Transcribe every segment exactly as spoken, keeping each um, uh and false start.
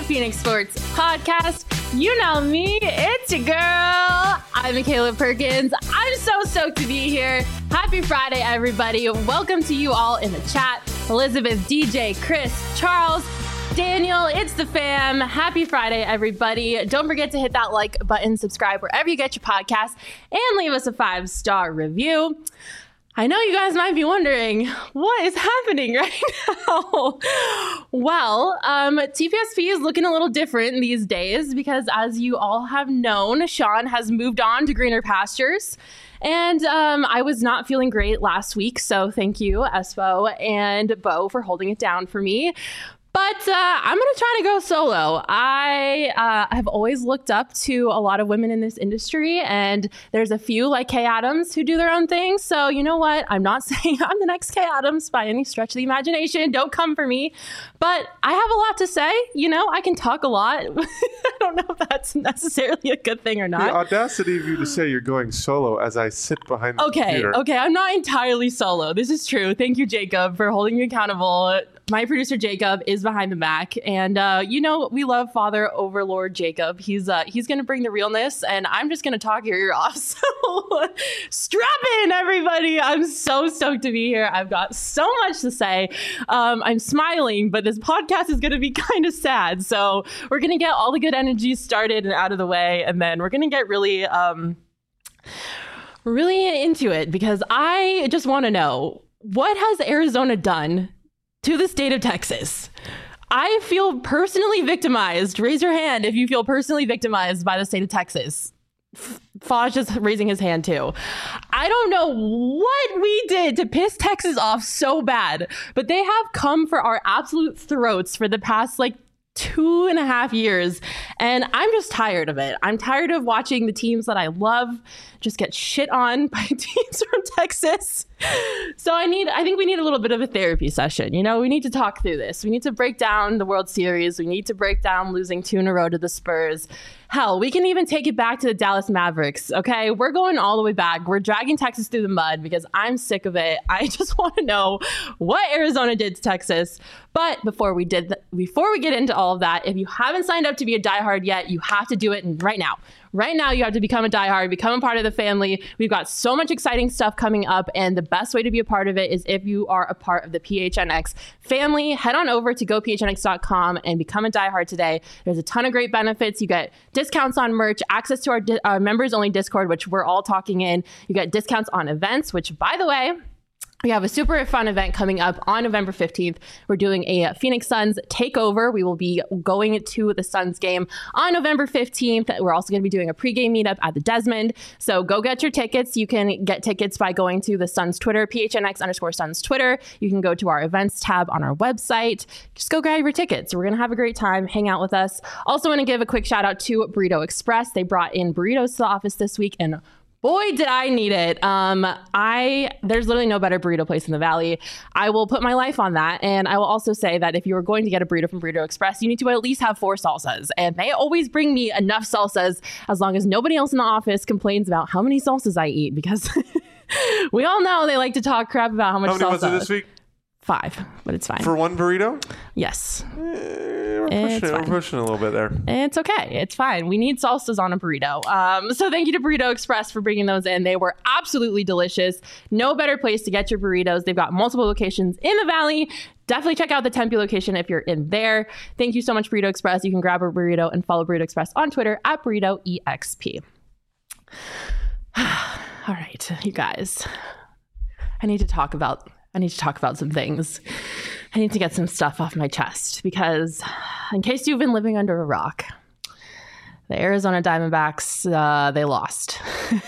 Phoenix Sports Podcast. You know me, it's your girl. I'm Michaela Perkins. I'm so stoked to be here. Happy Friday, everybody. Welcome to you all in the chat. Elizabeth, D J, Chris, Charles, Daniel, it's the fam. Happy Friday, everybody. Don't forget to hit that like button, subscribe wherever you get your podcasts, and leave us a five-star review. I know you guys might be wondering, what is happening right now? Well, um, T P S P is looking a little different these days because, as you all have known, Sean has moved on to greener pastures. And um, I was not feeling great last week, so thank you, Espo and Bo, for holding it down for me. But uh, I'm going to try to go solo. I uh, have always looked up to a lot of women in this industry, and there's a few like Kay Adams who do their own thing. So you know what? I'm not saying I'm the next Kay Adams by any stretch of the imagination. Don't come for me. But I have a lot to say. You know, I can talk a lot. I don't know if that's necessarily a good thing or not. The audacity of you to say you're going solo as I sit behind the okay, computer. Okay, I'm not entirely solo. This is true. Thank you, Jacob, for holding me accountable. My producer, Jacob, is behind the Mac. And, uh, you know, we love Father Overlord Jacob. He's uh, he's going to bring the realness, and I'm just going to talk your ear off. So strap in, everybody. I'm so stoked to be here. I've got so much to say. Um, I'm smiling, but this podcast is going to be kind of sad. So we're going to get all the good energy started and out of the way, and then we're going to get really, um, really into it, because I just want to know, what has Arizona done to the state of Texas? I feel personally victimized. Raise your hand if you feel personally victimized by the state of Texas. Faj just raising his hand too. I don't know what we did to piss Texas off so bad, but they have come for our absolute throats for the past like two and a half years. And I'm just tired of it. I'm tired of watching the teams that I love just get shit on by teams from Texas. So I need, I think we need a little bit of a therapy session. You know, we need to talk through this. We need to break down the World Series. We need to break down losing two in a row to the Spurs. Hell, we can even take it back to the Dallas Mavericks. Okay, we're going all the way back. We're dragging Texas through the mud because I'm sick of it. I just want to know what Arizona did to Texas. But before we did, th- before we get into all of that, if you haven't signed up to be a diehard yet, you have to do it right now. Right now, you have to become a diehard, become a part of the family. We've got so much exciting stuff coming up, and the best way to be a part of it is if you are a part of the P H N X family. Head on over to go p h n x dot com and become a diehard today. There's a ton of great benefits. You get discounts on merch, access to our di- uh, members-only Discord, which we're all talking in. You get discounts on events, which, by the way, we have a super fun event coming up on November fifteenth. We're doing a Phoenix Suns takeover. We will be going to the Suns game on November fifteenth. We're also going to be doing a pregame meetup at the Desmond. So go get your tickets. You can get tickets by going to the Suns Twitter, P H N X underscore Suns Twitter. You can go to our events tab on our website. Just go grab your tickets. We're going to have a great time. Hang out with us. Also want to give a quick shout out to Burrito Express. They brought in burritos to the office this week, and boy, did I need it. Um, I there's literally no better burrito place in the Valley. I will put my life on that. And I will also say that if you are going to get a burrito from Burrito Express, you need to at least have four salsas. And they always bring me enough salsas as long as nobody else in the office complains about how many salsas I eat, because we all know they like to talk crap about how much salsa. How many was it this week? Five, but it's fine. For one burrito? Yes. Eh, we're, pushing, we're pushing a little bit there. It's okay. It's fine. We need salsas on a burrito. Um, so thank you to Burrito Express for bringing those in. They were absolutely delicious. No better place to get your burritos. They've got multiple locations in the Valley. Definitely check out the Tempe location if you're in there. Thank you so much, Burrito Express. You can grab a burrito and follow Burrito Express on Twitter at burrito E X P. All right, you guys. I need to talk about I need to talk about some things. I need to get some stuff off my chest, because in case you've been living under a rock, the Arizona Diamondbacks, uh, they lost.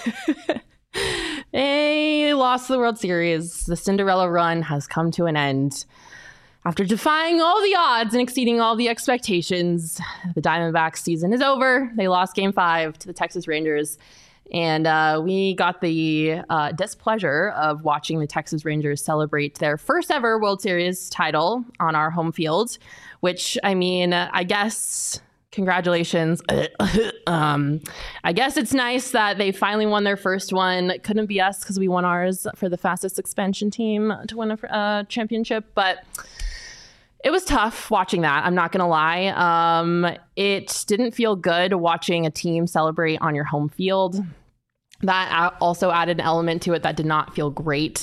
They lost the World Series. The Cinderella run has come to an end. After defying all the odds and exceeding all the expectations, the Diamondbacks season is over. They lost game five to the Texas Rangers. And uh, we got the uh, displeasure of watching the Texas Rangers celebrate their first ever World Series title on our home field, which, I mean, I guess, congratulations. um, I guess it's nice that they finally won their first one. It couldn't be us because we won ours for the fastest expansion team to win a uh, championship. But It was tough watching that. I'm not going to lie. Um, it didn't feel good watching a team celebrate on your home field. That also added an element to it that did not feel great.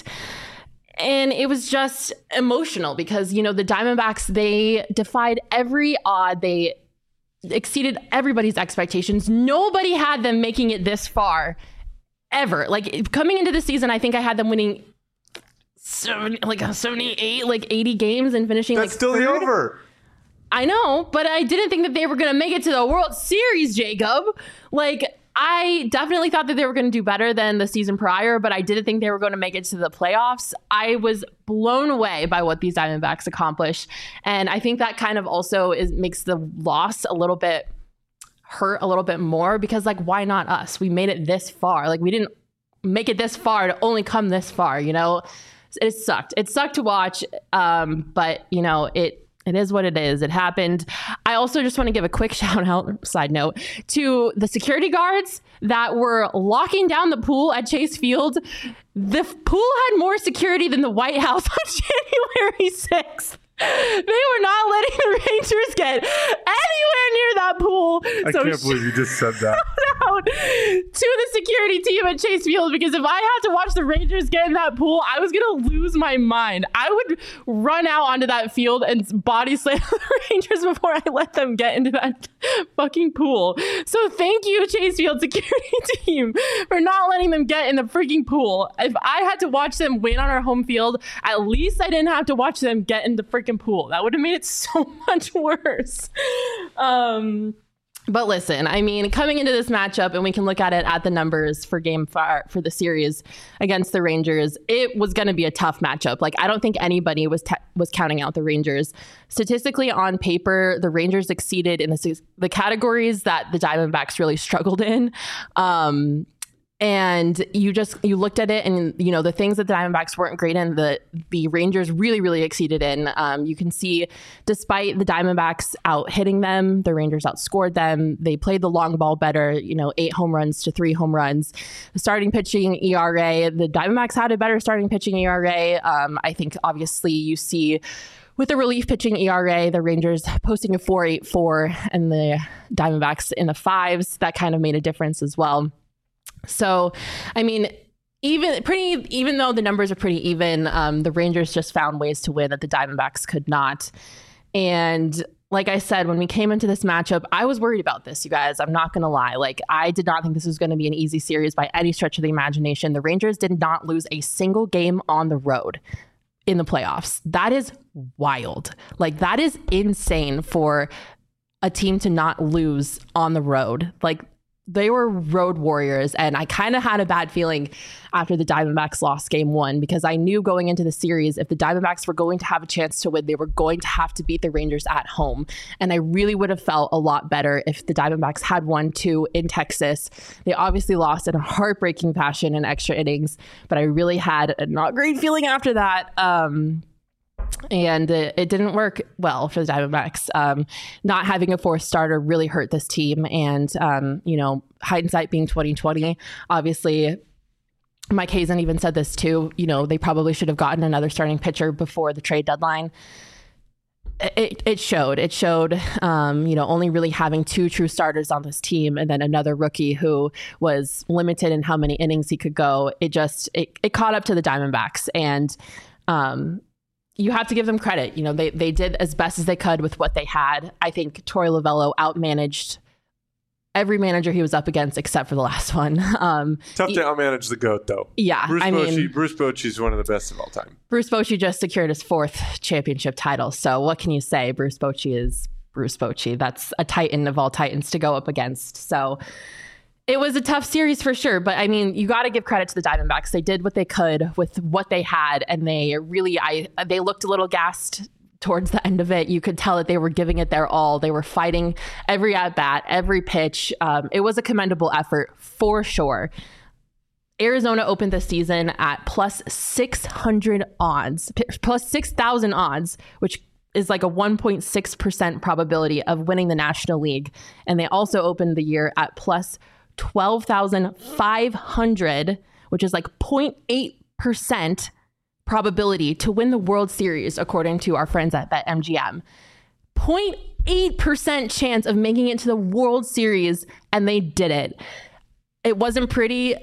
And it was just emotional because, you know, the Diamondbacks, they defied every odd. They exceeded everybody's expectations. Nobody had them making it this far ever. Like coming into the season, I think I had them winning seventy, like seventy-eight, like eighty games and finishing. That's like still third. the over. I know, but I didn't think that they were going to make it to the World Series, Jacob. Like, I definitely thought that they were going to do better than the season prior, but I didn't think they were going to make it to the playoffs. I was blown away by what these Diamondbacks accomplished. And I think that kind of also is makes the loss a little bit hurt a little bit more because, like, why not us? We made it this far. Like, we didn't make it this far to only come this far, you know? It sucked. It sucked to watch, um, but, you know, it It is what it is. It happened. I also just want to give a quick shout out, side note, to the security guards that were locking down the pool at Chase Field. The f- pool had more security than the White House on January sixth. They were not letting the Rangers get anywhere near that pool. I so can't believe you just said that. Out to the security team at Chase Field, because if I had to watch the Rangers get in that pool, I was gonna lose my mind. I would run out onto that field and body slam the Rangers before I let them get into that fucking pool. So thank you, Chase Field security team, for not letting them get in the freaking pool. If I had to watch them win on our home field, at least I didn't have to watch them get in the freaking pool. That would have made it so much worse. Um, But listen, I mean, coming into this matchup, and we can look at it at the numbers for game five for the series against the Rangers, it was going to be a tough matchup. Like, I don't think anybody was te- was counting out the Rangers. Statistically, on paper, the Rangers exceeded in the, the categories that the Diamondbacks really struggled in. Um, And you just you looked at it, and you know the things that the Diamondbacks weren't great in, the the Rangers really really exceeded in. Um, you can see, despite the Diamondbacks out hitting them, the Rangers outscored them. They played the long ball better. You know, eight home runs to three home runs. The starting pitching E R A, the Diamondbacks had a better starting pitching E R A. Um, I think obviously you see, with the relief pitching E R A, the Rangers posting a four point eight four and the Diamondbacks in the fives. That kind of made a difference as well. So, I mean, even pretty, even though the numbers are pretty even, um, the Rangers just found ways to win that the Diamondbacks could not. And like I said, when we came into this matchup, I was worried about this, you guys. I'm not going to lie. Like, I did not think this was going to be an easy series by any stretch of the imagination. The Rangers did not lose a single game on the road in the playoffs. That is wild. Like, that is insane for a team to not lose on the road. Like, they were road warriors, and I kind of had a bad feeling after the Diamondbacks lost game one, because I knew going into the series, if the Diamondbacks were going to have a chance to win, they were going to have to beat the Rangers at home. And I really would have felt a lot better if the Diamondbacks had won two in Texas. They obviously lost in a heartbreaking fashion in extra innings, but I really had a not great feeling after that. Um, And it, it didn't work well for the Diamondbacks. Um, not having a fourth starter really hurt this team. And, um, you know, hindsight being twenty twenty, obviously, Mike Hazen even said this too. You know, they probably should have gotten another starting pitcher before the trade deadline. It, it showed. It showed, um, you know, only really having two true starters on this team, and then another rookie who was limited in how many innings he could go. It just, it, it caught up to the Diamondbacks. And, um, you have to give them credit. You know, they they did as best as they could with what they had. I think Torey Lovullo outmanaged every manager he was up against except for the last one. Um, Tough he, to outmanage the GOAT, though. Yeah, Bruce I Bochy, mean, Bruce Bochy is one of the best of all time. Bruce Bochy just secured his fourth championship title. So what can you say? Bruce Bochy is Bruce Bochy. That's a titan of all titans to go up against. So it was a tough series for sure, but I mean, you got to give credit to the Diamondbacks. They did what they could with what they had, and they really, I they looked a little gassed towards the end of it. You could tell that they were giving it their all. They were fighting every at bat, every pitch. Um, it was a commendable effort for sure. Arizona opened the season at plus six hundred odds, plus six thousand odds, which is like a one point six percent probability of winning the National League. And they also opened the year at plus twelve thousand five hundred, which is like zero point eight percent probability to win the World Series, according to our friends at BetMGM. zero point eight percent chance of making it to the World Series, and they did it. It wasn't pretty.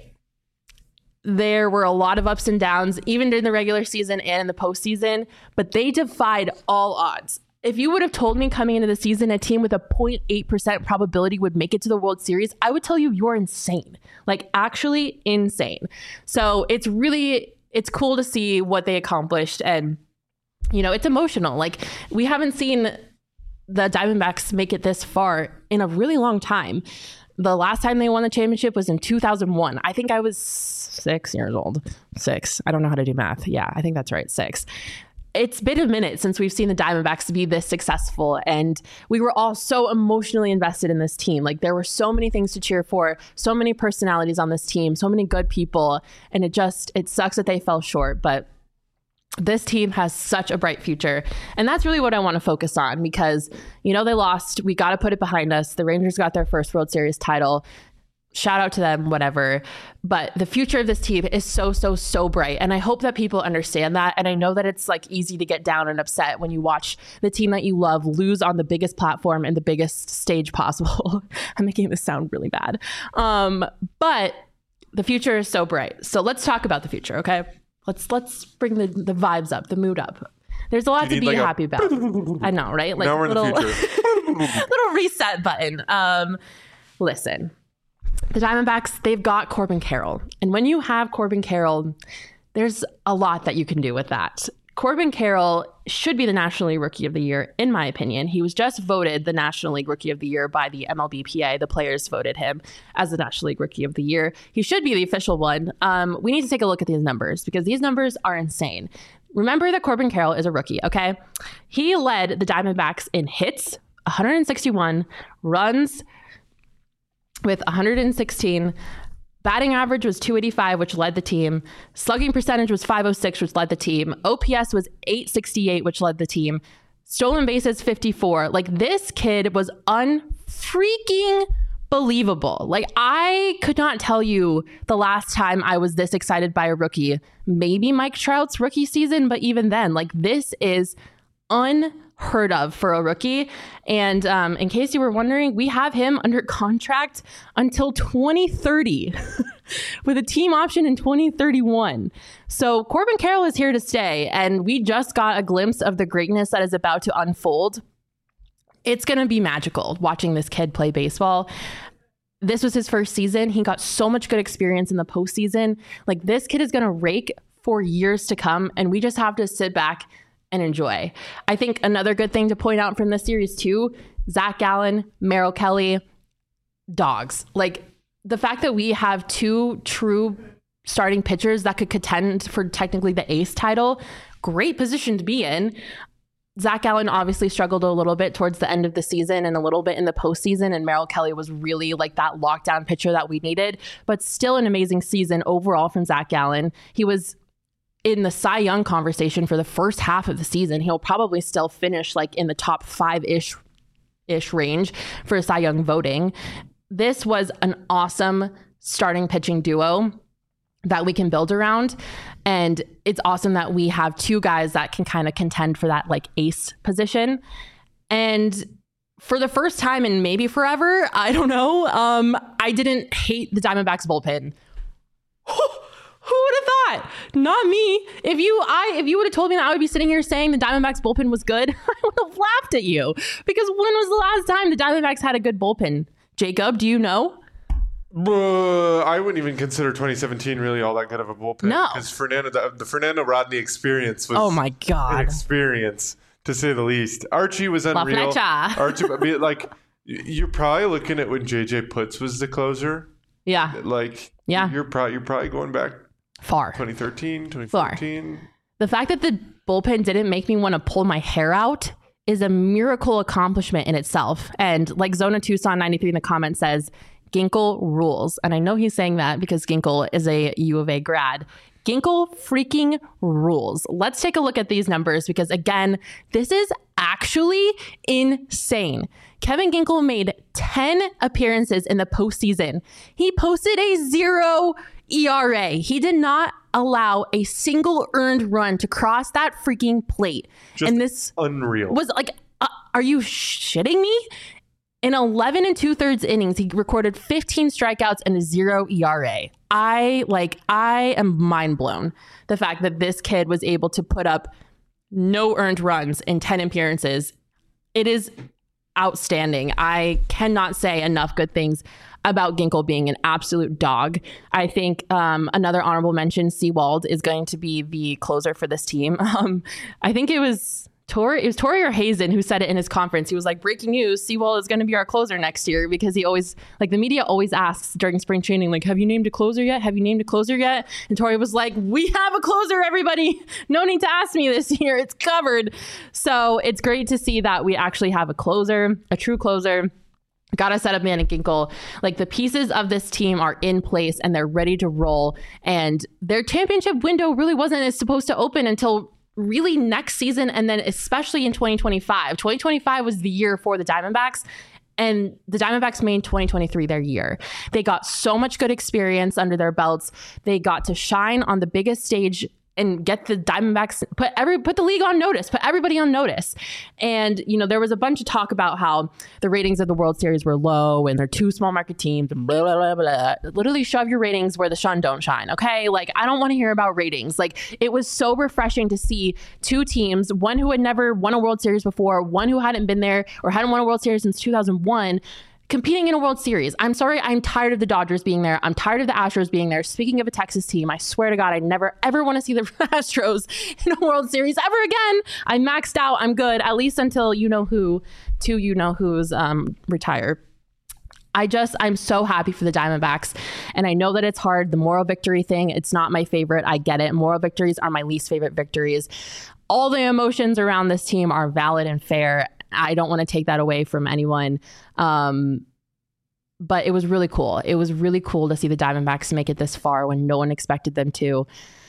There were a lot of ups and downs, even during the regular season and in the postseason, but they defied all odds. If you would have told me coming into the season a team with a zero point eight percent probability would make it to the World Series, I would tell you you're insane. Like, actually insane. So it's really, it's cool to see what they accomplished. And, you know, it's emotional. Like, we haven't seen the Diamondbacks make it this far in a really long time. The last time they won the championship was in two thousand one. I think I was six years old. Six. I don't know how to do math. Yeah, I think that's right. Six. It's been a minute since we've seen the Diamondbacks be this successful, and we were all so emotionally invested in this team. Like, there were so many things to cheer for, so many personalities on this team, so many good people, and it just, it sucks that they fell short, but this team has such a bright future. And that's really what I want to focus on because, you know, they lost. We got to put it behind us. The Rangers got their first World Series title. Shout out to them, whatever. But the future of this team is so, so, so bright. And I hope that people understand that. And I know that it's like easy to get down and upset when you watch the team that you love lose on the biggest platform and the biggest stage possible. I'm making this sound really bad. Um, but the future is so bright. So let's talk about the future, okay? Let's let's bring the, the vibes up, the mood up. There's a lot to be like happy a... about. I know, right? Like now we're little, in the future. little reset button. Um, listen, the Diamondbacks, they've got Corbin Carroll. And when you have Corbin Carroll, there's a lot that you can do with that. Corbin Carroll should be the National League Rookie of the Year, in my opinion. He was just voted the National League Rookie of the Year by the M L B P A. The players voted him as the National League Rookie of the Year. He should be the official one. Um, we need to take a look at these numbers because these numbers are insane. Remember that Corbin Carroll is a rookie, okay? He led the Diamondbacks in hits, one hundred sixty-one, runs with one hundred sixteen, batting average was two eighty-five, which led the team. Slugging percentage was five oh six, which led the team. O P S was eight sixty-eight, which led the team. Stolen bases, fifty-four. Like, this kid was unfreaking believable. Like, I could not tell you the last time I was this excited by a rookie. Maybe Mike Trout's rookie season, but even then, like, this is unheard of for a rookie. And um, in case you were wondering, we have him under contract until twenty thirty with a team option in twenty thirty-one. So Corbin Carroll is here to stay, and we just got a glimpse of the greatness that is about to unfold. It's going to be magical watching this kid play baseball. This was his first season. He got so much good experience in the postseason. Like, this kid is going to rake for years to come, and we just have to sit back and enjoy. I think another good thing to point out from this series too, Zach Gallen, Merrill Kelly, dogs. Like, the fact that we have two true starting pitchers that could contend for technically the ace title, great position to be in. Zach Gallen obviously struggled a little bit towards the end of the season and a little bit in the postseason, and Merrill Kelly was really like that lockdown pitcher that we needed, but still an amazing season overall from Zach Gallen. He was in the Cy Young conversation for the first half of the season. He'll probably still finish like in the top five-ish ish range for Cy Young voting. This was an awesome starting pitching duo that we can build around. And it's awesome that we have two guys that can kind of contend for that like ace position. And for the first time in maybe forever, I don't know, um, I didn't hate the Diamondbacks bullpen. Who would have thought? Not me. If you I if you would have told me that I would be sitting here saying the Diamondbacks bullpen was good, I would have laughed at you. Because when was the last time the Diamondbacks had a good bullpen? Jacob, do you know? Uh, I wouldn't even consider twenty seventeen really all that good of a bullpen. No. Because Fernando, the, the Fernando Rodney experience was oh my God. an experience, to say the least. Archie was La unreal. Flecha. Archie, I mean, like, you're probably looking at when J J Putz was the closer. Yeah. Like, yeah. you're, probably, you're probably going back far. twenty thirteen, twenty fourteen. Far. The fact that the bullpen didn't make me want to pull my hair out is a miracle accomplishment in itself. And like Zona Tucson ninety-three in the comments says, Ginkel rules. And I know he's saying that because Ginkel is a U of A grad. Ginkel freaking rules. Let's take a look at these numbers because, again, this is actually insane. Kevin Ginkel made ten appearances in the postseason. He posted a zero E R A. He did not allow a single earned run to cross that freaking plate. Just and this unreal. Was like, uh, are you shitting me? In eleven and two thirds innings, he recorded fifteen strikeouts and a zero E R A. I like, I am mind blown. The fact that this kid was able to put up no earned runs in ten appearances. It is outstanding. I cannot say enough good things about Ginkel being an absolute dog. I think um, another honorable mention, Seawald, is going to be the closer for this team. Um, I think it was Tori, it was Tori or Hazen who said it in his conference. He was like, breaking news, Seawald is going to be our closer next year, because he always, like, the media always asks during spring training, like, have you named a closer yet? Have you named a closer yet? And Tori was like, we have a closer, everybody. No need to ask me this year. It's covered. So it's great to see that we actually have a closer, a true closer. Gotta set up Manny Ginkel. Like, the pieces of this team are in place and they're ready to roll. And their championship window really wasn't as supposed to open until really next season, and then especially in twenty twenty-five. twenty twenty-five was the year for the Diamondbacks, and the Diamondbacks made twenty twenty-three their year. They got so much good experience under their belts. They got to shine on the biggest stage and get the Diamondbacks, put every put the league on notice, put everybody on notice. And, you know, there was a bunch of talk about how the ratings of the World Series were low and they're two small market teams and blah, blah, blah, blah. Literally shove your ratings where the sun don't shine, okay? Like, I don't want to hear about ratings. Like, it was so refreshing to see two teams, one who had never won a World Series before, one who hadn't been there or hadn't won a World Series since two thousand one, competing in a World Series. I'm sorry, I'm tired of the Dodgers being there. I'm tired of the Astros being there. Speaking of a Texas team, I swear to God, I never ever want to see the Astros in a World Series ever again. I maxed out. I'm good, at least until you know who, two you know who's um, retire. I just, I'm so happy for the Diamondbacks. And I know that it's hard. The moral victory thing, it's not my favorite. I get it. Moral victories are my least favorite victories. All the emotions around this team are valid and fair. I don't want to take that away from anyone. Um, but it was really cool. It was really cool to see the Diamondbacks make it this far when no one expected them to.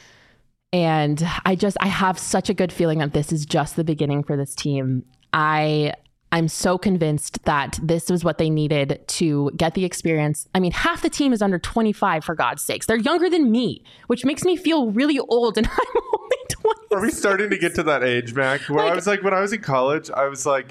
And I just, I have such a good feeling that this is just the beginning for this team. I, I'm so convinced that this was what they needed to get the experience. I mean, half the team is under twenty-five, for God's sakes. They're younger than me, which makes me feel really old, and I'm only twenty. Are we starting to get to that age, Mac? Where like, I was like, when I was in college, I was like,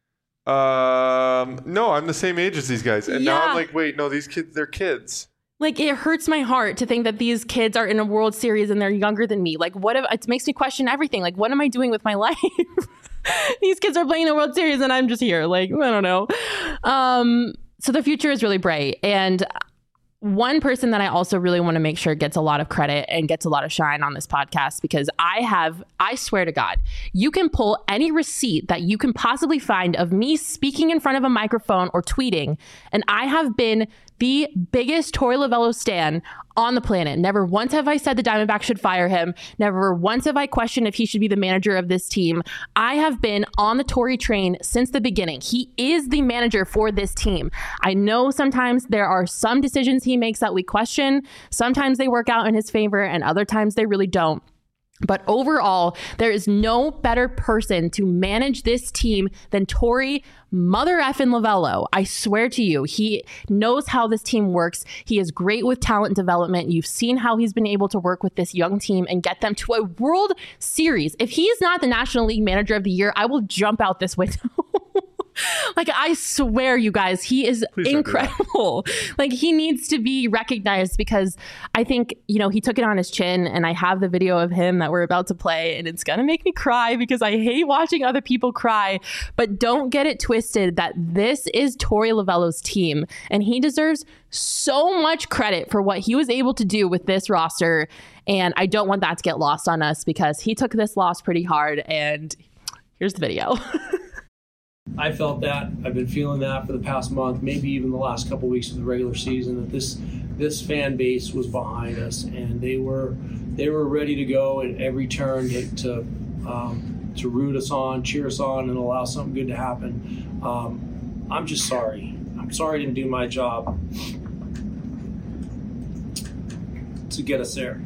um, no, I'm the same age as these guys. And yeah. Now I'm like, wait, no, these kids, they're kids. Like, it hurts my heart to think that these kids are in a World Series and they're younger than me. Like, what if, it makes me question everything. Like, what am I doing with my life? These kids are playing the World Series and I'm just here. Like, I don't know. Um, so the future is really bright. And one person that I also really want to make sure gets a lot of credit and gets a lot of shine on this podcast, because I have, I swear to God, you can pull any receipt that you can possibly find of me speaking in front of a microphone or tweeting, and I have been the biggest Torey Lovullo stan on the planet. Never once have I said the Diamondbacks should fire him. Never once have I questioned if he should be the manager of this team. I have been on the Torey train since the beginning. He is the manager for this team. I know sometimes there are some decisions he makes that we question. Sometimes they work out in his favor and other times they really don't. But overall, there is no better person to manage this team than Torey Mother effing Lovullo. I swear to you, he knows how this team works. He is great with talent development. You've seen how he's been able to work with this young team and get them to a World Series. If he's not the National League Manager of the Year, I will jump out this window. Like, I swear, you guys, he is Please incredible. Like, he needs to be recognized, because I think, you know, he took it on his chin, and I have the video of him that we're about to play, and it's going to make me cry because I hate watching other people cry. But don't get it twisted that this is Torey Lovullo's team, and he deserves so much credit for what he was able to do with this roster. And I don't want that to get lost on us, because he took this loss pretty hard. And here's the video. I felt that. I've been feeling that for the past month, maybe even the last couple of weeks of the regular season, that this this fan base was behind us, and they were they were ready to go at every turn to to, um, to root us on, cheer us on, and allow something good to happen. Um, I'm just sorry. I'm sorry I didn't do my job to get us there.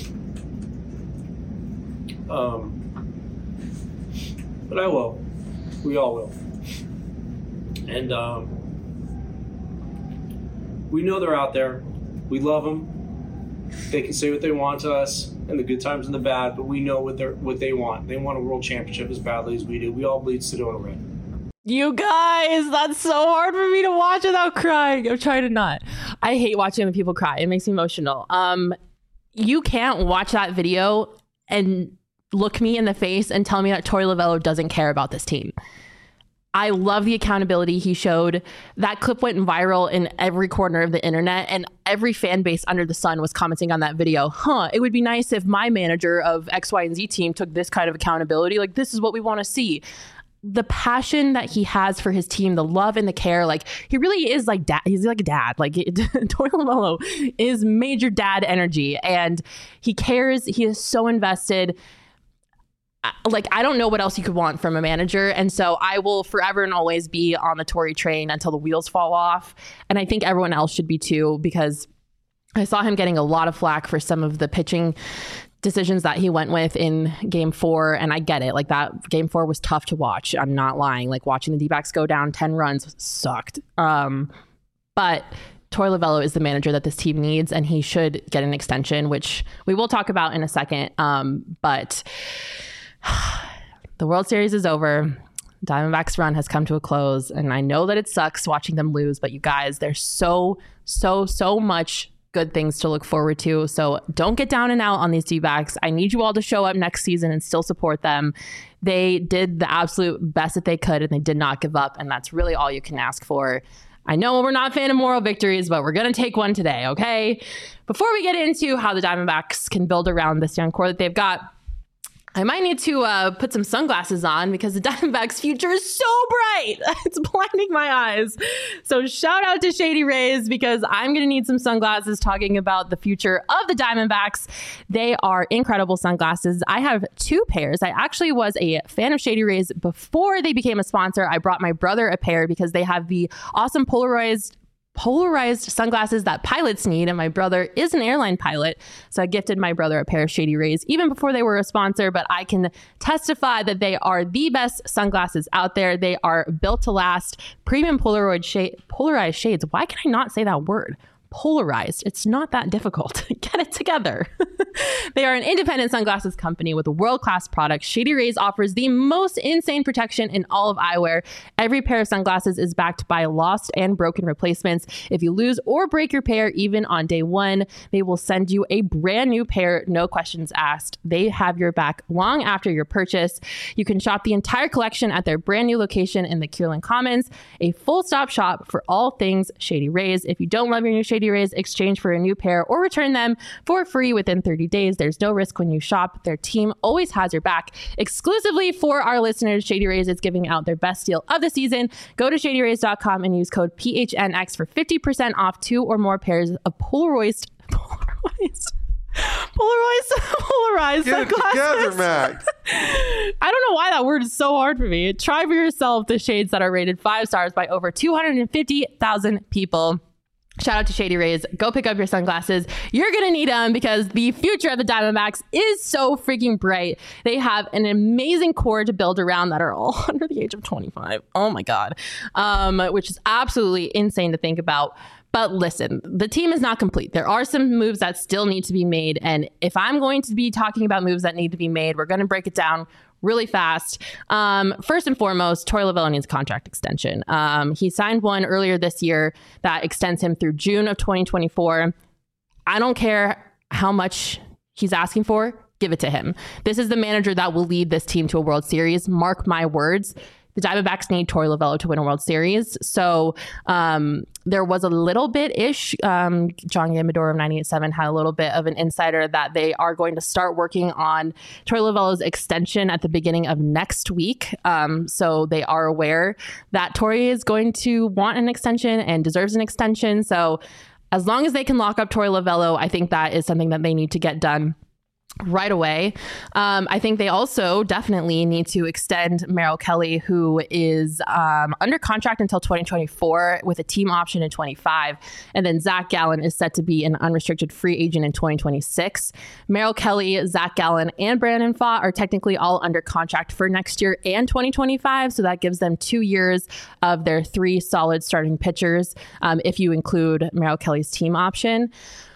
Um, but I will. We all will. And um, we know they're out there. We love them. they can say what they want to us, and the good times and the bad, but we know what they what they want. They want a world championship as badly as we do. We all bleed Sedona red. You guys, that's so hard for me to watch without crying. I'm trying to not. I hate watching other people cry. It makes me emotional. Um, you can't watch that video and look me in the face and tell me that Torey Lovullo doesn't care about this team. I love the accountability he showed. That clip went viral in every corner of the internet, and every fan base under the sun was commenting on that video. Huh, it would be nice if my manager of X, Y, and Z team took this kind of accountability. Like, this is what we want to see. The passion that he has for his team, the love and the care, like he really is like dad. He's like a dad. Like Torey Lovullo is major dad energy, and he cares. He is so invested. Like, I don't know what else you could want from a manager. And so I will forever and always be on the Torey train until the wheels fall off. And I think everyone else should be too, because I saw him getting a lot of flack for some of the pitching decisions that he went with in game four. And I get it. Like, that game four was tough to watch. I'm not lying. Like, watching the D-backs go down ten runs sucked. Um, but Torey Lovullo is the manager that this team needs, and he should get an extension, which we will talk about in a second. Um, but the World Series is over. Diamondbacks run has come to a close, and I know that it sucks watching them lose, but you guys, there's so, so, so much good things to look forward to. So don't get down and out on these D-backs. I need you all to show up next season and still support them. They did the absolute best that they could, and they did not give up, and that's really all you can ask for. I know we're not a fan of moral victories, but we're going to take one today, okay? Before we get into how the Diamondbacks can build around this young core that they've got, I might need to uh, put some sunglasses on because the Diamondbacks' future is so bright. It's blinding my eyes. So shout out to Shady Rays, because I'm going to need some sunglasses talking about the future of the Diamondbacks. They are incredible sunglasses. I have two pairs. I actually was a fan of Shady Rays before they became a sponsor. I brought my brother a pair because they have the awesome polarized polarized sunglasses that pilots need, and my brother is an airline pilot, so I gifted my brother a pair of Shady Rays even before they were a sponsor. But I can testify that they are the best sunglasses out there. They are built to last, premium Polaroid shade, polarized shades. Why can I not say that word? Polarized. It's not that difficult. Get it together. They are an independent sunglasses company with a world-class product. Shady Rays offers the most insane protection in all of eyewear. Every pair of sunglasses is backed by lost and broken replacements. If you lose or break your pair, even on day one, they will send you a brand new pair, no questions asked. They have your back long after your purchase. You can shop the entire collection at their brand new location in the Kierland Commons, a full-stop shop for all things Shady Rays. If you don't love your new Shady Rays, exchange for a new pair or return them for free within thirty days. There's no risk when you shop. Their team always has your back. Exclusively for our listeners, Shady Rays is giving out their best deal of the season. Go to shady rays dot com and use code P H N X for fifty percent off two or more pairs of polarized polarized polarized polarized Get it together, Mac. I don't know why that word is so hard for me. Try for yourself the shades that are rated five stars by over two hundred fifty thousand people. Shout out to Shady Rays. Go pick up your sunglasses. You're going to need them because the future of the Diamondbacks is so freaking bright. They have an amazing core to build around that are all under the age of twenty-five. Oh my God. Um, which is absolutely insane to think about. But listen, the team is not complete. There are some moves that still need to be made. And if I'm going to be talking about moves that need to be made, we're going to break it down really fast. Um, first and foremost, Torey Lovullo needs a contract extension. Um, he signed one earlier this year that extends him through June of twenty twenty-four. I don't care how much he's asking for, give it to him. This is the manager that will lead this team to a World Series. Mark my words. The Diamondbacks need Torey Lovullo to win a World Series. So um, there was a little bit-ish. Um, John Gambador of ninety-eight point seven had a little bit of an insider that they are going to start working on Torey Lovullo's extension at the beginning of next week. Um, so they are aware that Torey is going to want an extension and deserves an extension. So as long as they can lock up Torey Lovullo, I think that is something that they need to get done right away. Um, I think they also definitely need to extend Merrill Kelly, who is um, under contract until twenty twenty-four with a team option in twenty-five. And then Zach Gallen is set to be an unrestricted free agent in twenty twenty-six. Merrill Kelly, Zach Gallen, and Brandon Pfaadt are technically all under contract for next year and twenty twenty-five. So that gives them two years of their three solid starting pitchers, um, if you include Merrill Kelly's team option.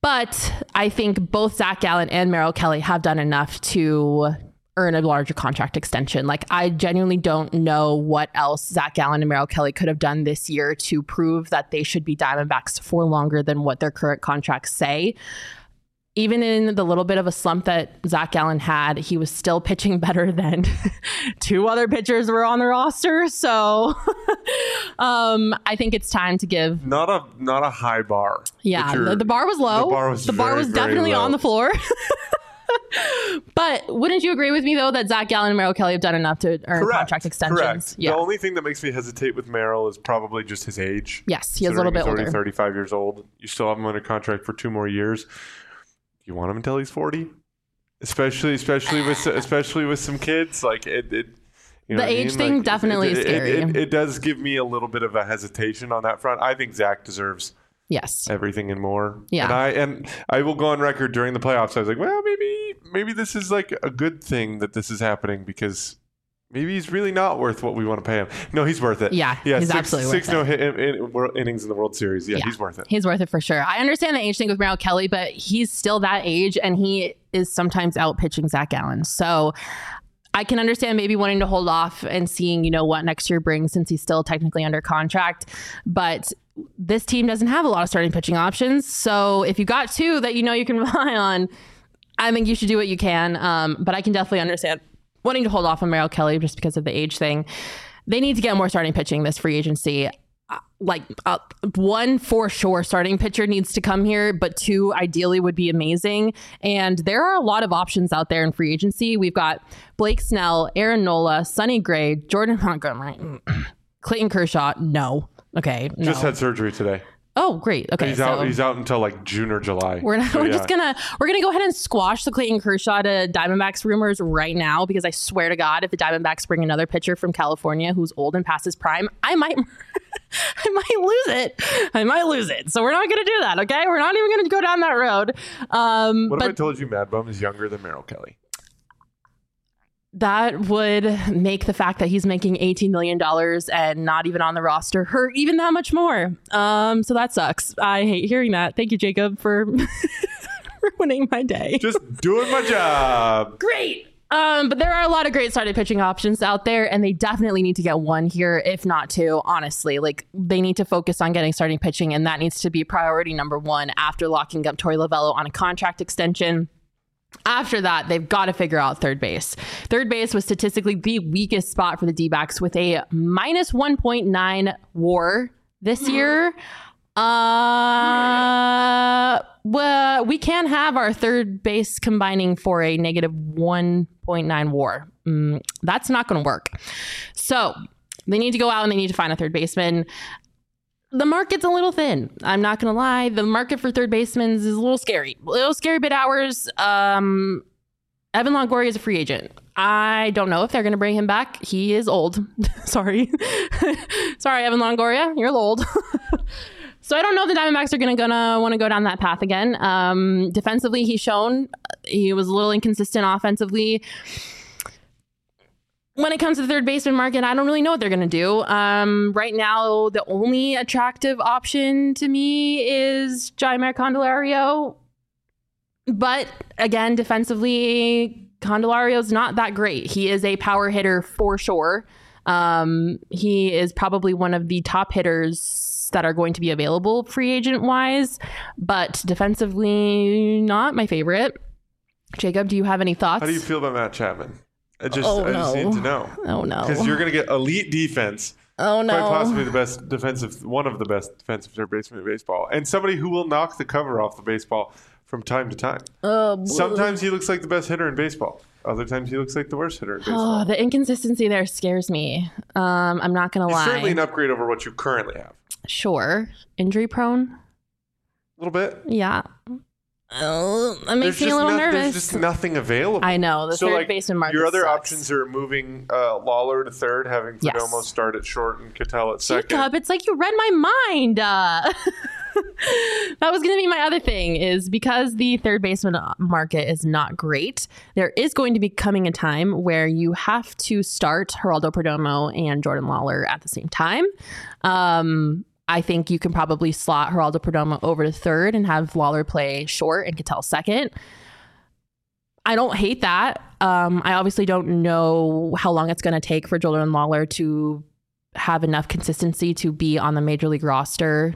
But I think both Zach Gallen and Merrill Kelly have done enough to earn a larger contract extension. Like, I genuinely don't know what else Zach Gallen and Merrill Kelly could have done this year to prove that they should be Diamondbacks for longer than what their current contracts say. Even in the little bit of a slump that Zach Gallen had, he was still pitching better than two other pitchers were on the roster. So um, I think it's time to give not a not a high bar. Yeah, the, the bar was low. The bar was, the bar very, was definitely on the floor. But wouldn't you agree with me, though, that Zach Gallen and Merrill Kelly have done enough to earn Correct. contract extensions? Correct. Yeah. The only thing that makes me hesitate with Merrill is probably just his age. Yes, he is a little bit he's older. thirty-five years old. You still have him under contract for two more years. You want him until he's forty, especially especially with especially with some kids. Like it, it you know the age I mean? thing like, definitely it, is scary. It, it, it does give me a little bit of a hesitation on that front. I think Zach deserves yes everything and more. Yeah, and I and I will go on record during the playoffs. I was like, well, maybe maybe this is like a good thing that this is happening because maybe he's really not worth what we want to pay him. No, he's worth it. Yeah, yeah he's six, absolutely six worth no it. hit in, in, innings in the World Series. Yeah, yeah, he's worth it. He's worth it for sure. I understand the age thing with Merrill Kelly, but he's still that age, and he is sometimes out pitching Zach Gallen. So I can understand maybe wanting to hold off and seeing, you know, what next year brings since he's still technically under contract. But this team doesn't have a lot of starting pitching options. So if you got two that you know you can rely on, I think you should do what you can. Um, but I can definitely understand wanting to hold off on Merrill Kelly just because of the age thing. They need to get more starting pitching this free agency. Uh, like uh, one for sure starting pitcher needs to come here, but two ideally would be amazing. And there are a lot of options out there in free agency. We've got Blake Snell, Aaron Nola, Sonny Gray, Jordan Montgomery, Clayton Kershaw. No. Okay. No. Just had surgery today. Oh, great. Okay. He's so out. He's out until like June or July. We're not, so, we're yeah. just gonna we're gonna go ahead and squash the Clayton Kershaw to Diamondbacks rumors right now, because I swear to God, if the Diamondbacks bring another pitcher from California who's old and past his prime, I might I might lose it. I might lose it. So we're not gonna do that. Okay, we're not even gonna go down that road. Um, what but, if I told you Mad Bum is younger than Merrill Kelly? That would make the fact that he's making eighteen million dollars and not even on the roster hurt even that much more. Um, so that sucks. I hate hearing that. Thank you, Jacob, for ruining my day. Just doing my job. Great. Um, but there are a lot of great starting pitching options out there, and they definitely need to get one here, if not two, honestly. Like, they need to focus on getting starting pitching, and that needs to be priority number one after locking up Torey Lovullo on a contract extension. After that, they've got to figure out third base. Third base was statistically the weakest spot for the D-backs with a minus one point nine WAR this year. Uh, well, we can have our third base combining for a negative one point nine WAR. Mm, that's not going to work. So they need to go out and they need to find a third baseman. The market's a little thin. I'm not going to lie. The market for third basemen is a little scary. A little scary bid hours. Um, Evan Longoria is a free agent. I don't know if they're going to bring him back. He is old. Sorry. Sorry, Evan Longoria. You're old. So I don't know if the Diamondbacks are going to gonna want to go down that path again. Um, defensively, he's shown he was a little inconsistent offensively. When it comes to the third baseman market, I don't really know what they're going to do. Um, right now, the only attractive option to me is Jeimer Candelario. But again, defensively, Candelario's not that great. He is a power hitter for sure. Um, he is probably one of the top hitters that are going to be available free agent wise, but defensively, not my favorite. Jacob, do you have any thoughts? How do you feel about Matt Chapman? I just, oh, I no. just need to know. Oh, no. Because you're going to get elite defense. Oh, no. Quite possibly the best defensive, one of the best defensive third basemen in baseball. And somebody who will knock the cover off the baseball from time to time. Uh, Sometimes he looks like the best hitter in baseball. Other times he looks like the worst hitter in baseball. Oh, the inconsistency there scares me. Um, I'm not going to lie. It's certainly an upgrade over what you currently have. Sure. Injury prone? A little bit. Yeah. Oh, that makes there's me a little no, nervous. There's just nothing available. I know. The so third like, baseman market your other sucks. options are moving uh, Lawler to third, having Yes. Perdomo start at short and Ketel at second. Jacob, it's like you read my mind. Uh, that was going to be my other thing, is because the third baseman market is not great, there is going to be coming a time where you have to start Geraldo Perdomo and Jordan Lawler at the same time. Um, I think you can probably slot Geraldo Perdomo over to third and have Lawler play short and Ketel second. I don't hate that. Um, I obviously don't know how long it's going to take for Jordan Lawler to have enough consistency to be on the major league roster.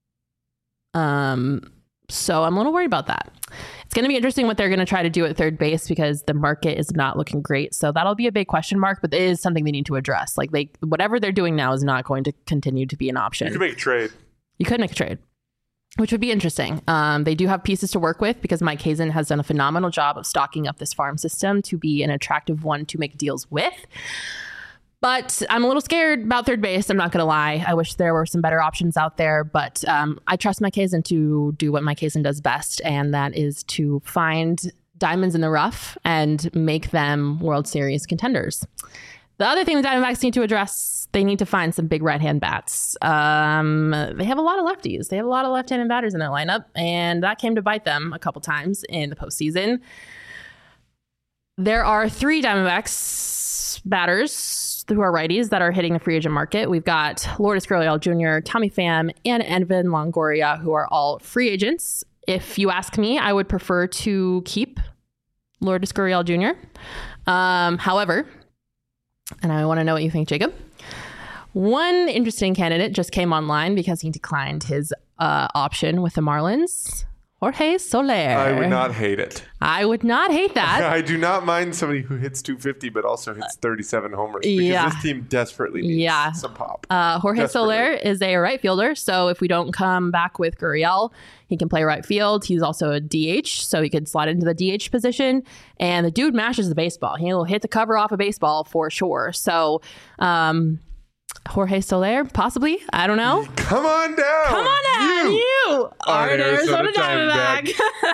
Um, so I'm a little worried about that. It's going to be interesting what they're going to try to do at third base because the market is not looking great. So that'll be a big question mark, but it is something they need to address. Like they, whatever they're doing now is not going to continue to be an option. You could make a trade. You could make a trade, which would be interesting. Um, they do have pieces to work with because Mike Hazen has done a phenomenal job of stocking up this farm system to be an attractive one to make deals with. But I'm a little scared about third base. I'm not going to lie. I wish there were some better options out there. But um, I trust Mike Hazen to do what Mike Hazen does best, and that is to find diamonds in the rough and make them World Series contenders. The other thing the Diamondbacks need to address, they need to find some big right-hand bats. Um, they have a lot of lefties. They have a lot of left-handed batters in their lineup, and that came to bite them a couple times in the postseason. There are three Diamondbacks batters who are righties that are hitting the free agent market. We've got Lourdes Gurriel Junior, Tommy Pham, and Evan Longoria, who are all free agents. If you ask me, I would prefer to keep Lourdes Gurriel Junior Um, however, and I want to know what you think, Jacob. One interesting candidate just came online because he declined his uh, option with the Marlins. Jorge Soler. I would not hate it. I would not hate that. I do not mind somebody who hits two fifty but also hits thirty-seven homers because yeah. this team desperately needs yeah. some pop. Uh, Jorge desperately. Soler is a right fielder, so if we don't come back with Gurriel, he can play right field. He's also a D H, so he could slide into the D H position. And the dude mashes the baseball. He'll hit the cover off a baseball for sure. So, um... Jorge Soler, possibly. I don't know. Come on down. Come on down. You, you are an Arizona, Arizona Diamondback.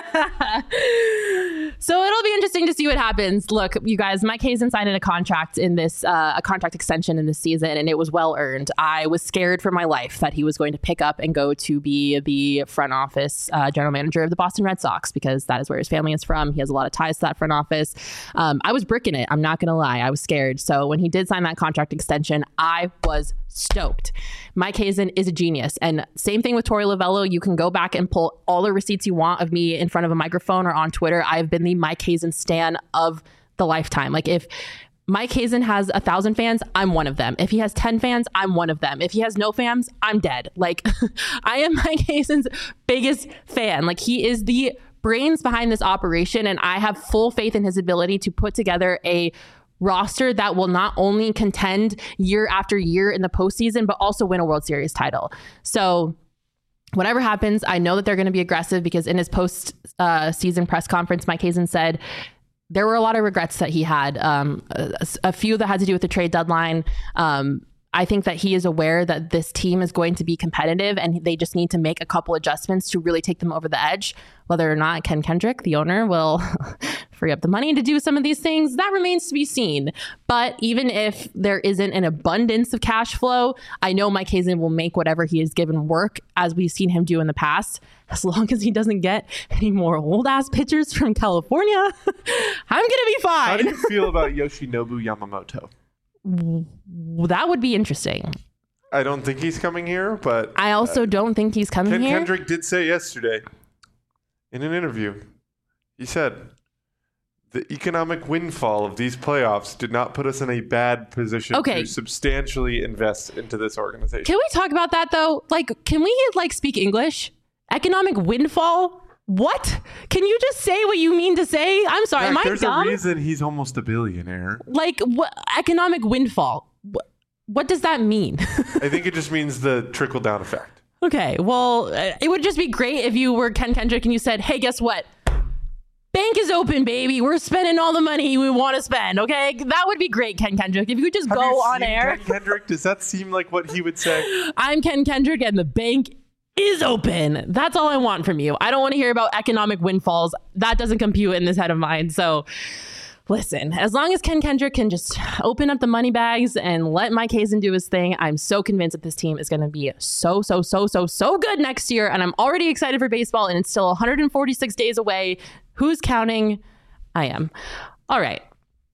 Diamondback. So it'll be interesting to see what happens. Look, you guys, Mike Hazen signed a contract in this, uh, a contract extension in this season, and it was well earned. I was scared for my life that he was going to pick up and go to be the front office uh, general manager of the Boston Red Sox because that is where his family is from. He has a lot of ties to that front office. Um, I was bricking it. I'm not going to lie. I was scared. So when he did sign that contract extension, I was stoked. Mike Hazen is a genius. And same thing with Torey Lovullo. You can go back and pull all the receipts you want of me in front of a microphone or on Twitter. I've been the Mike Hazen stan of the lifetime. Like if Mike Hazen has a thousand fans, I'm one of them. If he has ten fans, I'm one of them. If he has no fans, I'm dead. Like I am Mike Hazen's biggest fan. Like he is the brains behind this operation. And I have full faith in his ability to put together a roster that will not only contend year after year in the postseason, but also win a World Series title. So whatever happens, I know that they're going to be aggressive because in his post uh, season press conference, Mike Hazen said there were a lot of regrets that he had, um, a, a few that had to do with the trade deadline. Um, I think that he is aware that this team is going to be competitive and they just need to make a couple adjustments to really take them over the edge. Whether or not Ken Kendrick, the owner, will free up the money to do some of these things, that remains to be seen. But even if there isn't an abundance of cash flow, I know Mike Hazen will make whatever he has given work, as we've seen him do in the past. As long as he doesn't get any more old ass pitchers from California, I'm going to be fine. How do you feel about Yoshinobu Yamamoto? That would be interesting. I don't think he's coming here, but I also uh, don't think he's coming Ken here. Kendrick did say yesterday in an interview, he said, the economic windfall of these playoffs did not put us in a bad position okay. to substantially invest into this organization. Can we talk about that though? Like, can we like speak English? Economic windfall? What? Can you just say what you mean to say? I'm sorry, Heck, am I there's dumb? There's a reason he's almost a billionaire. Like, what economic windfall? What, what does that mean? I think it just means the trickle-down effect. Okay, well, it would just be great if you were Ken Kendrick and you said, hey, guess what? Bank is open, baby. We're spending all the money we want to spend, okay? That would be great, Ken Kendrick. If you could just Have go you on seen air. Ken Kendrick? Does that seem like what he would say? I'm Ken Kendrick and the bank is open. That's all I want from you. I don't want to hear about economic windfalls. That doesn't compute in this head of mine. So listen, as long as Ken Kendrick can just open up the money bags and let Mike Hazen do his thing, I'm so convinced that this team is going to be so, so, so, so, so good next year. And I'm already excited for baseball, and it's still one hundred forty-six days away. Who's counting? I am. All right.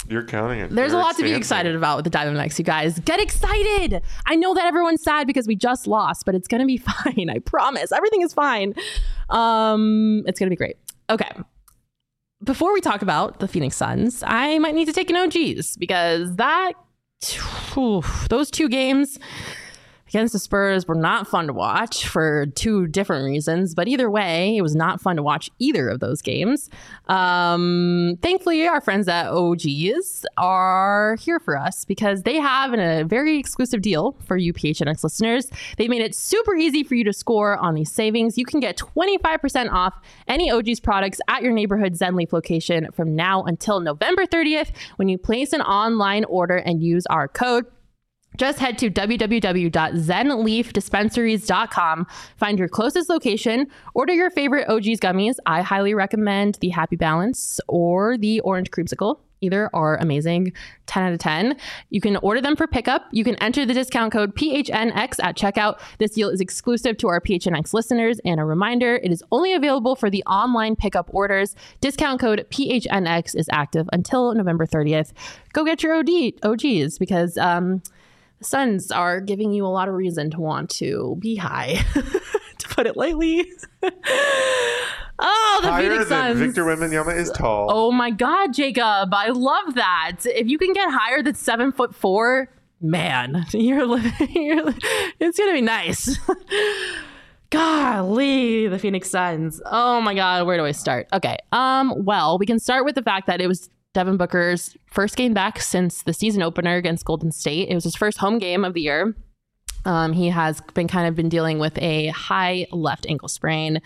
You're counting it. There's You're a lot to be expansive. excited about with the Diamondbacks, you guys. Get excited. I know that everyone's sad because we just lost, but it's going to be fine. I promise. Everything is fine. Um, it's going to be great. Okay. Before we talk about the Phoenix Suns, I might need to take an O Gs because that, whew, those two games against the Spurs were not fun to watch for two different reasons. But either way, it was not fun to watch either of those games. Um, thankfully, our friends at O Gs are here for us because they have a very exclusive deal for you P H N X listeners. They made it super easy for you to score on these savings. You can get twenty-five percent off any O Gs products at your neighborhood Zenleaf location from now until November thirtieth when you place an online order and use our code. Just head to w w w dot zen leaf dispensaries dot com, find your closest location, order your favorite O Gs gummies. I highly recommend the Happy Balance or the Orange Creamsicle. Either are amazing. ten out of ten. You can order them for pickup. You can enter the discount code P H N X at checkout. This deal is exclusive to our P H N X listeners. And a reminder, it is only available for the online pickup orders. Discount code P H N X is active until November thirtieth. Go get your O D, O Gs because... um. Suns are giving you a lot of reason to want to be high, to put it lightly. Oh, the Higher Phoenix than Suns. Victor Wembanyama is tall. Oh my God, Jacob. I love that. If you can get higher than seven foot four, man, you're living, you're, li- it's going to be nice. Golly, the Phoenix Suns. Oh my God, where do I start? Okay. Um. Well, we can start with the fact that it was Devin Booker's first game back since the season opener against Golden State. It was his first home game of the year. Um, he has been kind of been dealing with a high left ankle sprain.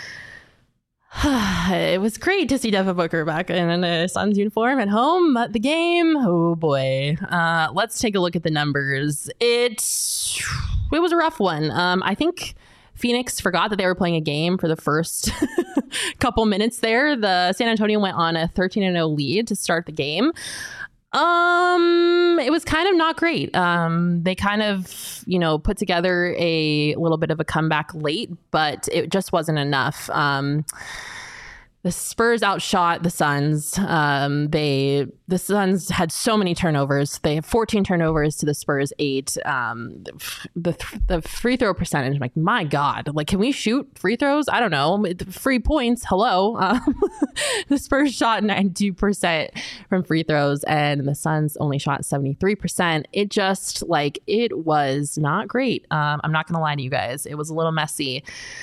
It was great to see Devin Booker back in a Suns uniform at home at the game. Oh boy. Uh, let's take a look at the numbers. It, it was a rough one. Um, I think Phoenix forgot that they were playing a game for the first couple minutes there. The San Antonio went on a thirteen and oh lead to start the game. Um, it was kind of not great. Um, they kind of, you know, put together a little bit of a comeback late, but it just wasn't enough. Um, The Spurs outshot the Suns. Um, they the Suns had so many turnovers. They have fourteen turnovers to the Spurs eight. Um, the the free throw percentage, I'm like, my God, like, can we shoot free throws? I don't know. Free points. Hello. Um, the Spurs shot ninety-two percent from free throws, and the Suns only shot seventy-three percent. It just like it was not great. Um, I'm not gonna lie to you guys. It was a little messy.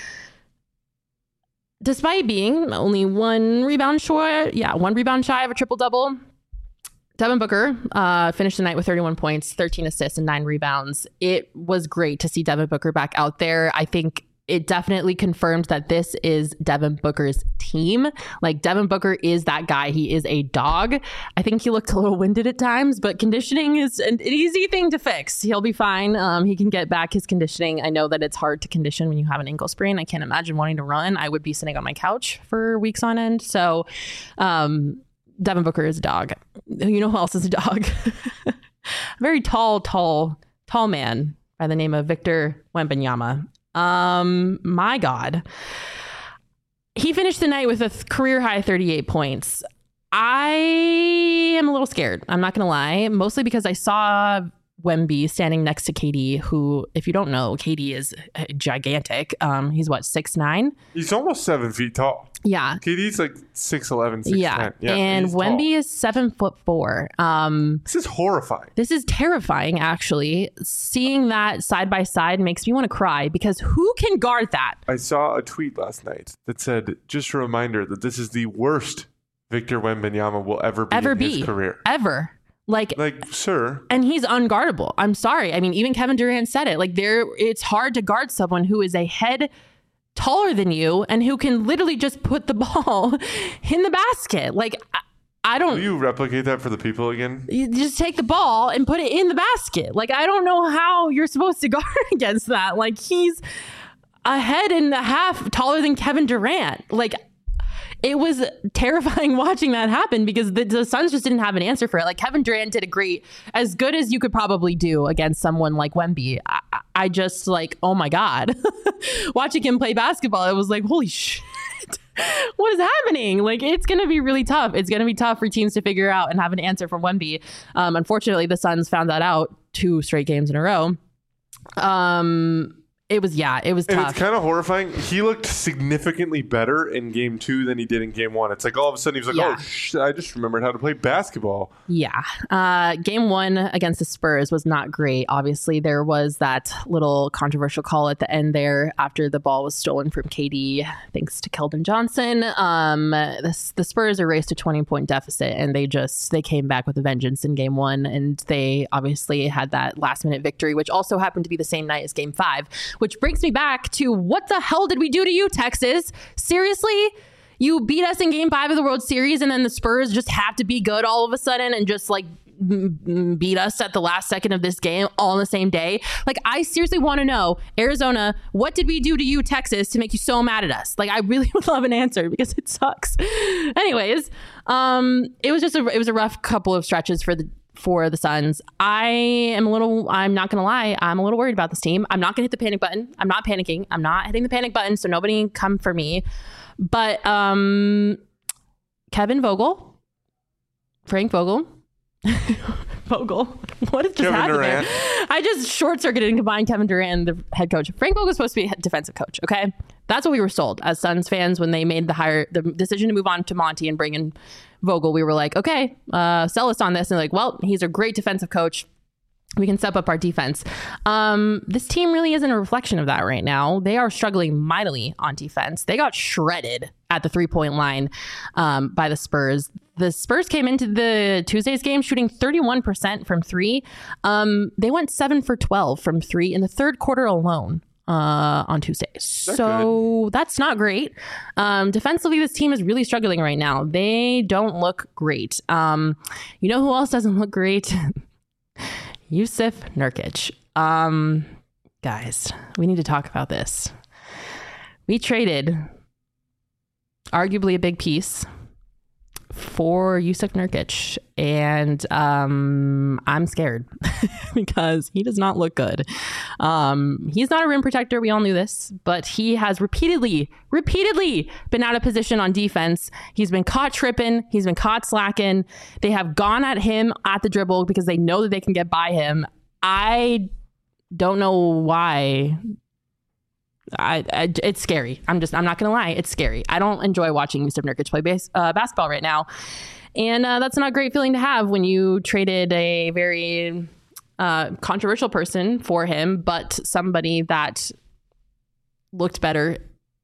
Despite being only one rebound short, yeah, one rebound shy of a triple-double, Devin Booker uh, finished the night with thirty-one points, thirteen assists, and nine rebounds. It was great to see Devin Booker back out there. I think it definitely confirmed that this is Devin Booker's team. Like, Devin Booker is that guy. He is a dog. I think he looked a little winded at times, but conditioning is an easy thing to fix. He'll be fine. Um, he can get back his conditioning. I know that it's hard to condition when you have an ankle sprain. I can't imagine wanting to run. I would be sitting on my couch for weeks on end. So um, Devin Booker is a dog. You know who else is a dog? A very tall, tall, tall man by the name of Victor Wembanyama. Um, my God. He finished the night with a th- career high thirty-eight points. I am a little scared. I'm not going to lie, mostly because I saw Wemby standing next to K D, who, if you don't know, K D is gigantic. Um, he's what, six nine? He's almost seven feet tall. Yeah. K D's like six eleven, six ten. Yeah. Yeah, and Wemby tall. is seven foot four. Um, This is horrifying. This is terrifying, actually. Seeing that side by side makes me want to cry because who can guard that? I saw a tweet last night that said, just a reminder that this is the worst Victor Wembanyama will ever be Ever in be. his career. Ever. Like, Like, sir. and he's unguardable. I'm sorry. I mean, even Kevin Durant said it. Like, there, it's hard to guard someone who is a head taller than you and who can literally just put the ball in the basket. Like, I, I don't. Will you replicate that for the people again? You just take the ball and put it in the basket. Like, I don't know how you're supposed to guard against that. Like, he's a head and a half taller than Kevin Durant. Like, it was terrifying watching that happen because the, the Suns just didn't have an answer for it. Like, Kevin Durant did a great, as good as you could probably do against someone like Wemby. I, I just like, oh my God, watching him play basketball, it was like, holy shit. What is happening? Like, it's going to be really tough. It's going to be tough for teams to figure out and have an answer from Wemby. Um, unfortunately, the Suns found that out two straight games in a row. Um, it was, yeah, it was and tough. It's kind of horrifying. He looked significantly better in game two than he did in game one. It's like all of a sudden he was like, yeah. oh, sh- I just remembered how to play basketball. Yeah. Uh, game one against the Spurs was not great. Obviously, there was that little controversial call at the end there after the ball was stolen from K D, thanks to Keldon Johnson. Um, the, the Spurs erased a twenty-point deficit, and they just, they came back with a vengeance in game one, and they obviously had that last-minute victory, which also happened to be the same night as game five, which brings me back to what the hell did we do to you, Texas? Seriously? You beat us in game five of the World Series, and then the Spurs just have to be good all of a sudden and just like m- beat us at the last second of this game all on the same day. Like, I seriously want to know, Arizona, what did we do to you, Texas, to make you so mad at us? Like, I really would love an answer because it sucks. Anyways, um, it was just a, it was a rough couple of stretches for the for the Suns. I am a little, I'm not going to lie, I'm a little worried about this team. I'm not going to hit the panic button. I'm not panicking. I'm not hitting the panic button, so nobody come for me. But um, Kevin Vogel, Frank Vogel, Vogel, what just Kevin happened Durant. there? I just short-circuited and combined Kevin Durant and the head coach. Frank Vogel was supposed to be a defensive coach, okay? That's what we were sold as Suns fans when they made the hire, the decision to move on to Monty and bring in Vogel. We were like, okay, uh, sell us on this. And like, well, he's a great defensive coach. We can step up our defense. Um, this team really isn't a reflection of that right now. They are struggling mightily on defense. They got shredded at the three-point line um, by the Spurs. The Spurs came into the Tuesday's game shooting thirty-one percent from three. Um, they went seven for twelve from three in the third quarter alone. Uh, on Tuesday. So good. That's not great. Um, defensively, this team is really struggling right now. They don't look great. Um, you know who else doesn't look great? Jusuf Nurkic. Um, guys, we need to talk about this. We traded arguably a big piece for Jusuf Nurkic, and um, I'm scared because he does not look good. Um, he's not a rim protector. We all knew this, but he has repeatedly, repeatedly been out of position on defense. He's been caught tripping. He's been caught slacking. They have gone at him at the dribble because they know that they can get by him. I don't know why. I, I it's scary. I'm just I'm not gonna lie, it's scary. I don't enjoy watching Jusuf Nurkic play base, uh, basketball right now, and uh, that's not a great feeling to have when you traded a very uh, controversial person for him, but somebody that looked better.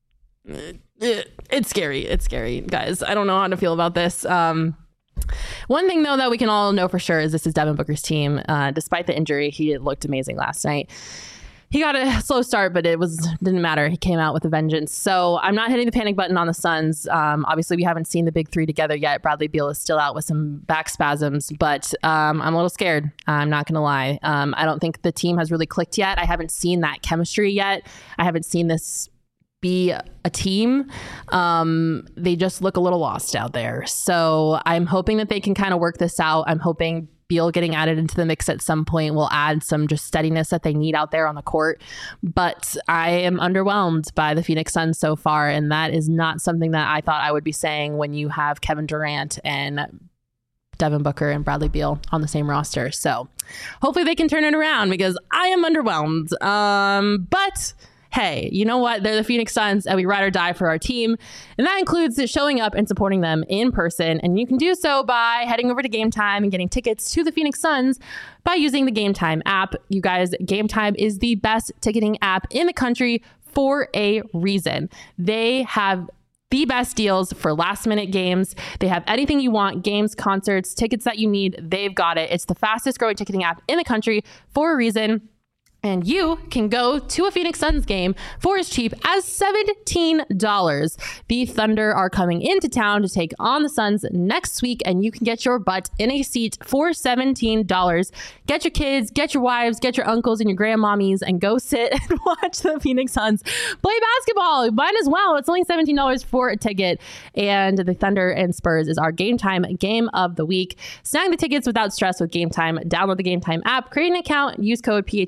It's scary. It's scary, guys. I don't know how to feel about this. Um, One thing, though, that we can all know for sure is this is Devin Booker's team. Uh, despite the injury, he looked amazing last night. He got a slow start, but it was didn't matter. He came out with a vengeance. So I'm not hitting the panic button on the Suns. Um, obviously, we haven't seen the big three together yet. Bradley Beal is still out with some back spasms, but um, I'm a little scared. I'm not going to lie. Um, I don't think the team has really clicked yet. I haven't seen that chemistry yet. I haven't seen this be a team. Um, they just look a little lost out there. So I'm hoping that they can kind of work this out. I'm hoping Beal getting added into the mix at some point will add some just steadiness that they need out there on the court. But I am underwhelmed by the Phoenix Suns so far, and that is not something that I thought I would be saying when you have Kevin Durant and Devin Booker and Bradley Beal on the same roster. So hopefully they can turn it around because I am underwhelmed. Um, but hey, you know what? They're the Phoenix Suns, and we ride or die for our team. And that includes showing up and supporting them in person. And you can do so by heading over to Game Time and getting tickets to the Phoenix Suns by using the Game Time app. You guys, Game Time is the best ticketing app in the country for a reason. They have the best deals for last minute games. They have anything you want, games, concerts, tickets that you need. They've got it. It's the fastest growing ticketing app in the country for a reason. And you can go to a Phoenix Suns game for as cheap as seventeen dollars. The Thunder are coming into town to take on the Suns next week, and you can get your butt in a seat for seventeen dollars. Get your kids, get your wives, get your uncles and your grandmommies, and go sit and watch the Phoenix Suns play basketball. Might as well. It's only seventeen dollars for a ticket. And the Thunder and Spurs is our Game Time game of the week. Snag the tickets without stress with Game Time. Download the Game Time app, create an account, use code P H N X for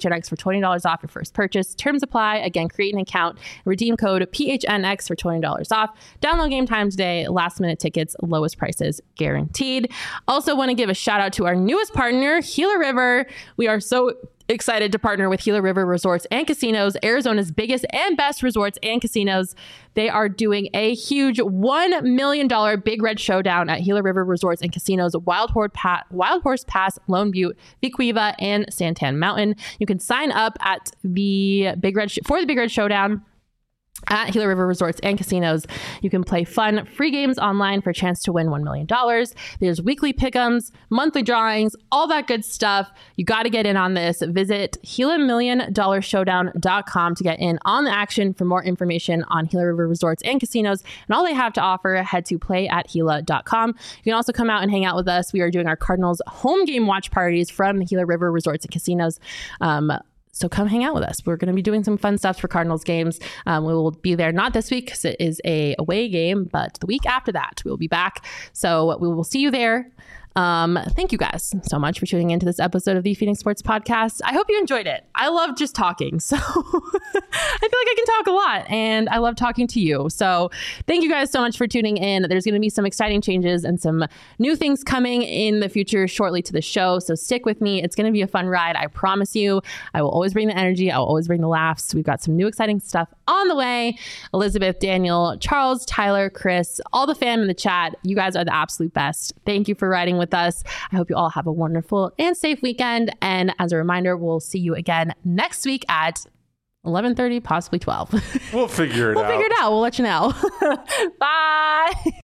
twenty dollars off your first purchase. Terms apply. Again, create an account, redeem code P H N X for twenty dollars off. Download Game Time today. Last minute tickets, lowest prices guaranteed. Also want to give a shout out to our newest partner, Gila River. We are so excited to partner with Gila River Resorts and Casinos, Arizona's biggest and best resorts and casinos. They are doing a huge one million dollars Big Red Showdown at Gila River Resorts and Casinos, Wild Horse, pa- Wild Horse Pass, Lone Butte, Vicuiva, and Santan Mountain. You can sign up at the Big Red Sh- for the Big Red Showdown at Gila River Resorts and Casinos. You can play fun, free games online for a chance to win one million dollars. There's weekly pick'ems, monthly drawings, all that good stuff. You got to get in on this. Visit Gila Million Dollar Showdown dot com to get in on the action. For more information on Gila River Resorts and Casinos and all they have to offer, head to play at Gila dot com. You can also come out and hang out with us. We are doing our Cardinals home game watch parties from the Gila River Resorts and Casinos. Um, So come hang out with us. We're going to be doing some fun stuff for Cardinals games. Um, we will be there not this week because it is a away game, but the week after that, we will be back. So we will see you there. Um, thank you guys so much for tuning into this episode of the Phoenix Sports Podcast. I hope you enjoyed it. I love just talking. So I feel like I can talk a lot and I love talking to you. So thank you guys so much for tuning in. There's going to be some exciting changes and some new things coming in the future shortly to the show. So stick with me. It's going to be a fun ride. I promise you. I will always bring the energy. I will always bring the laughs. We've got some new exciting stuff on the way. Elizabeth, Daniel, Charles, Tyler, Chris, all the fam in the chat. You guys are the absolute best. Thank you for riding with us. I hope you all have a wonderful and safe weekend. And as a reminder, we'll see you again next week at eleven thirty, possibly twelve. We'll figure it we'll out. We'll figure it out. We'll let you know. Bye.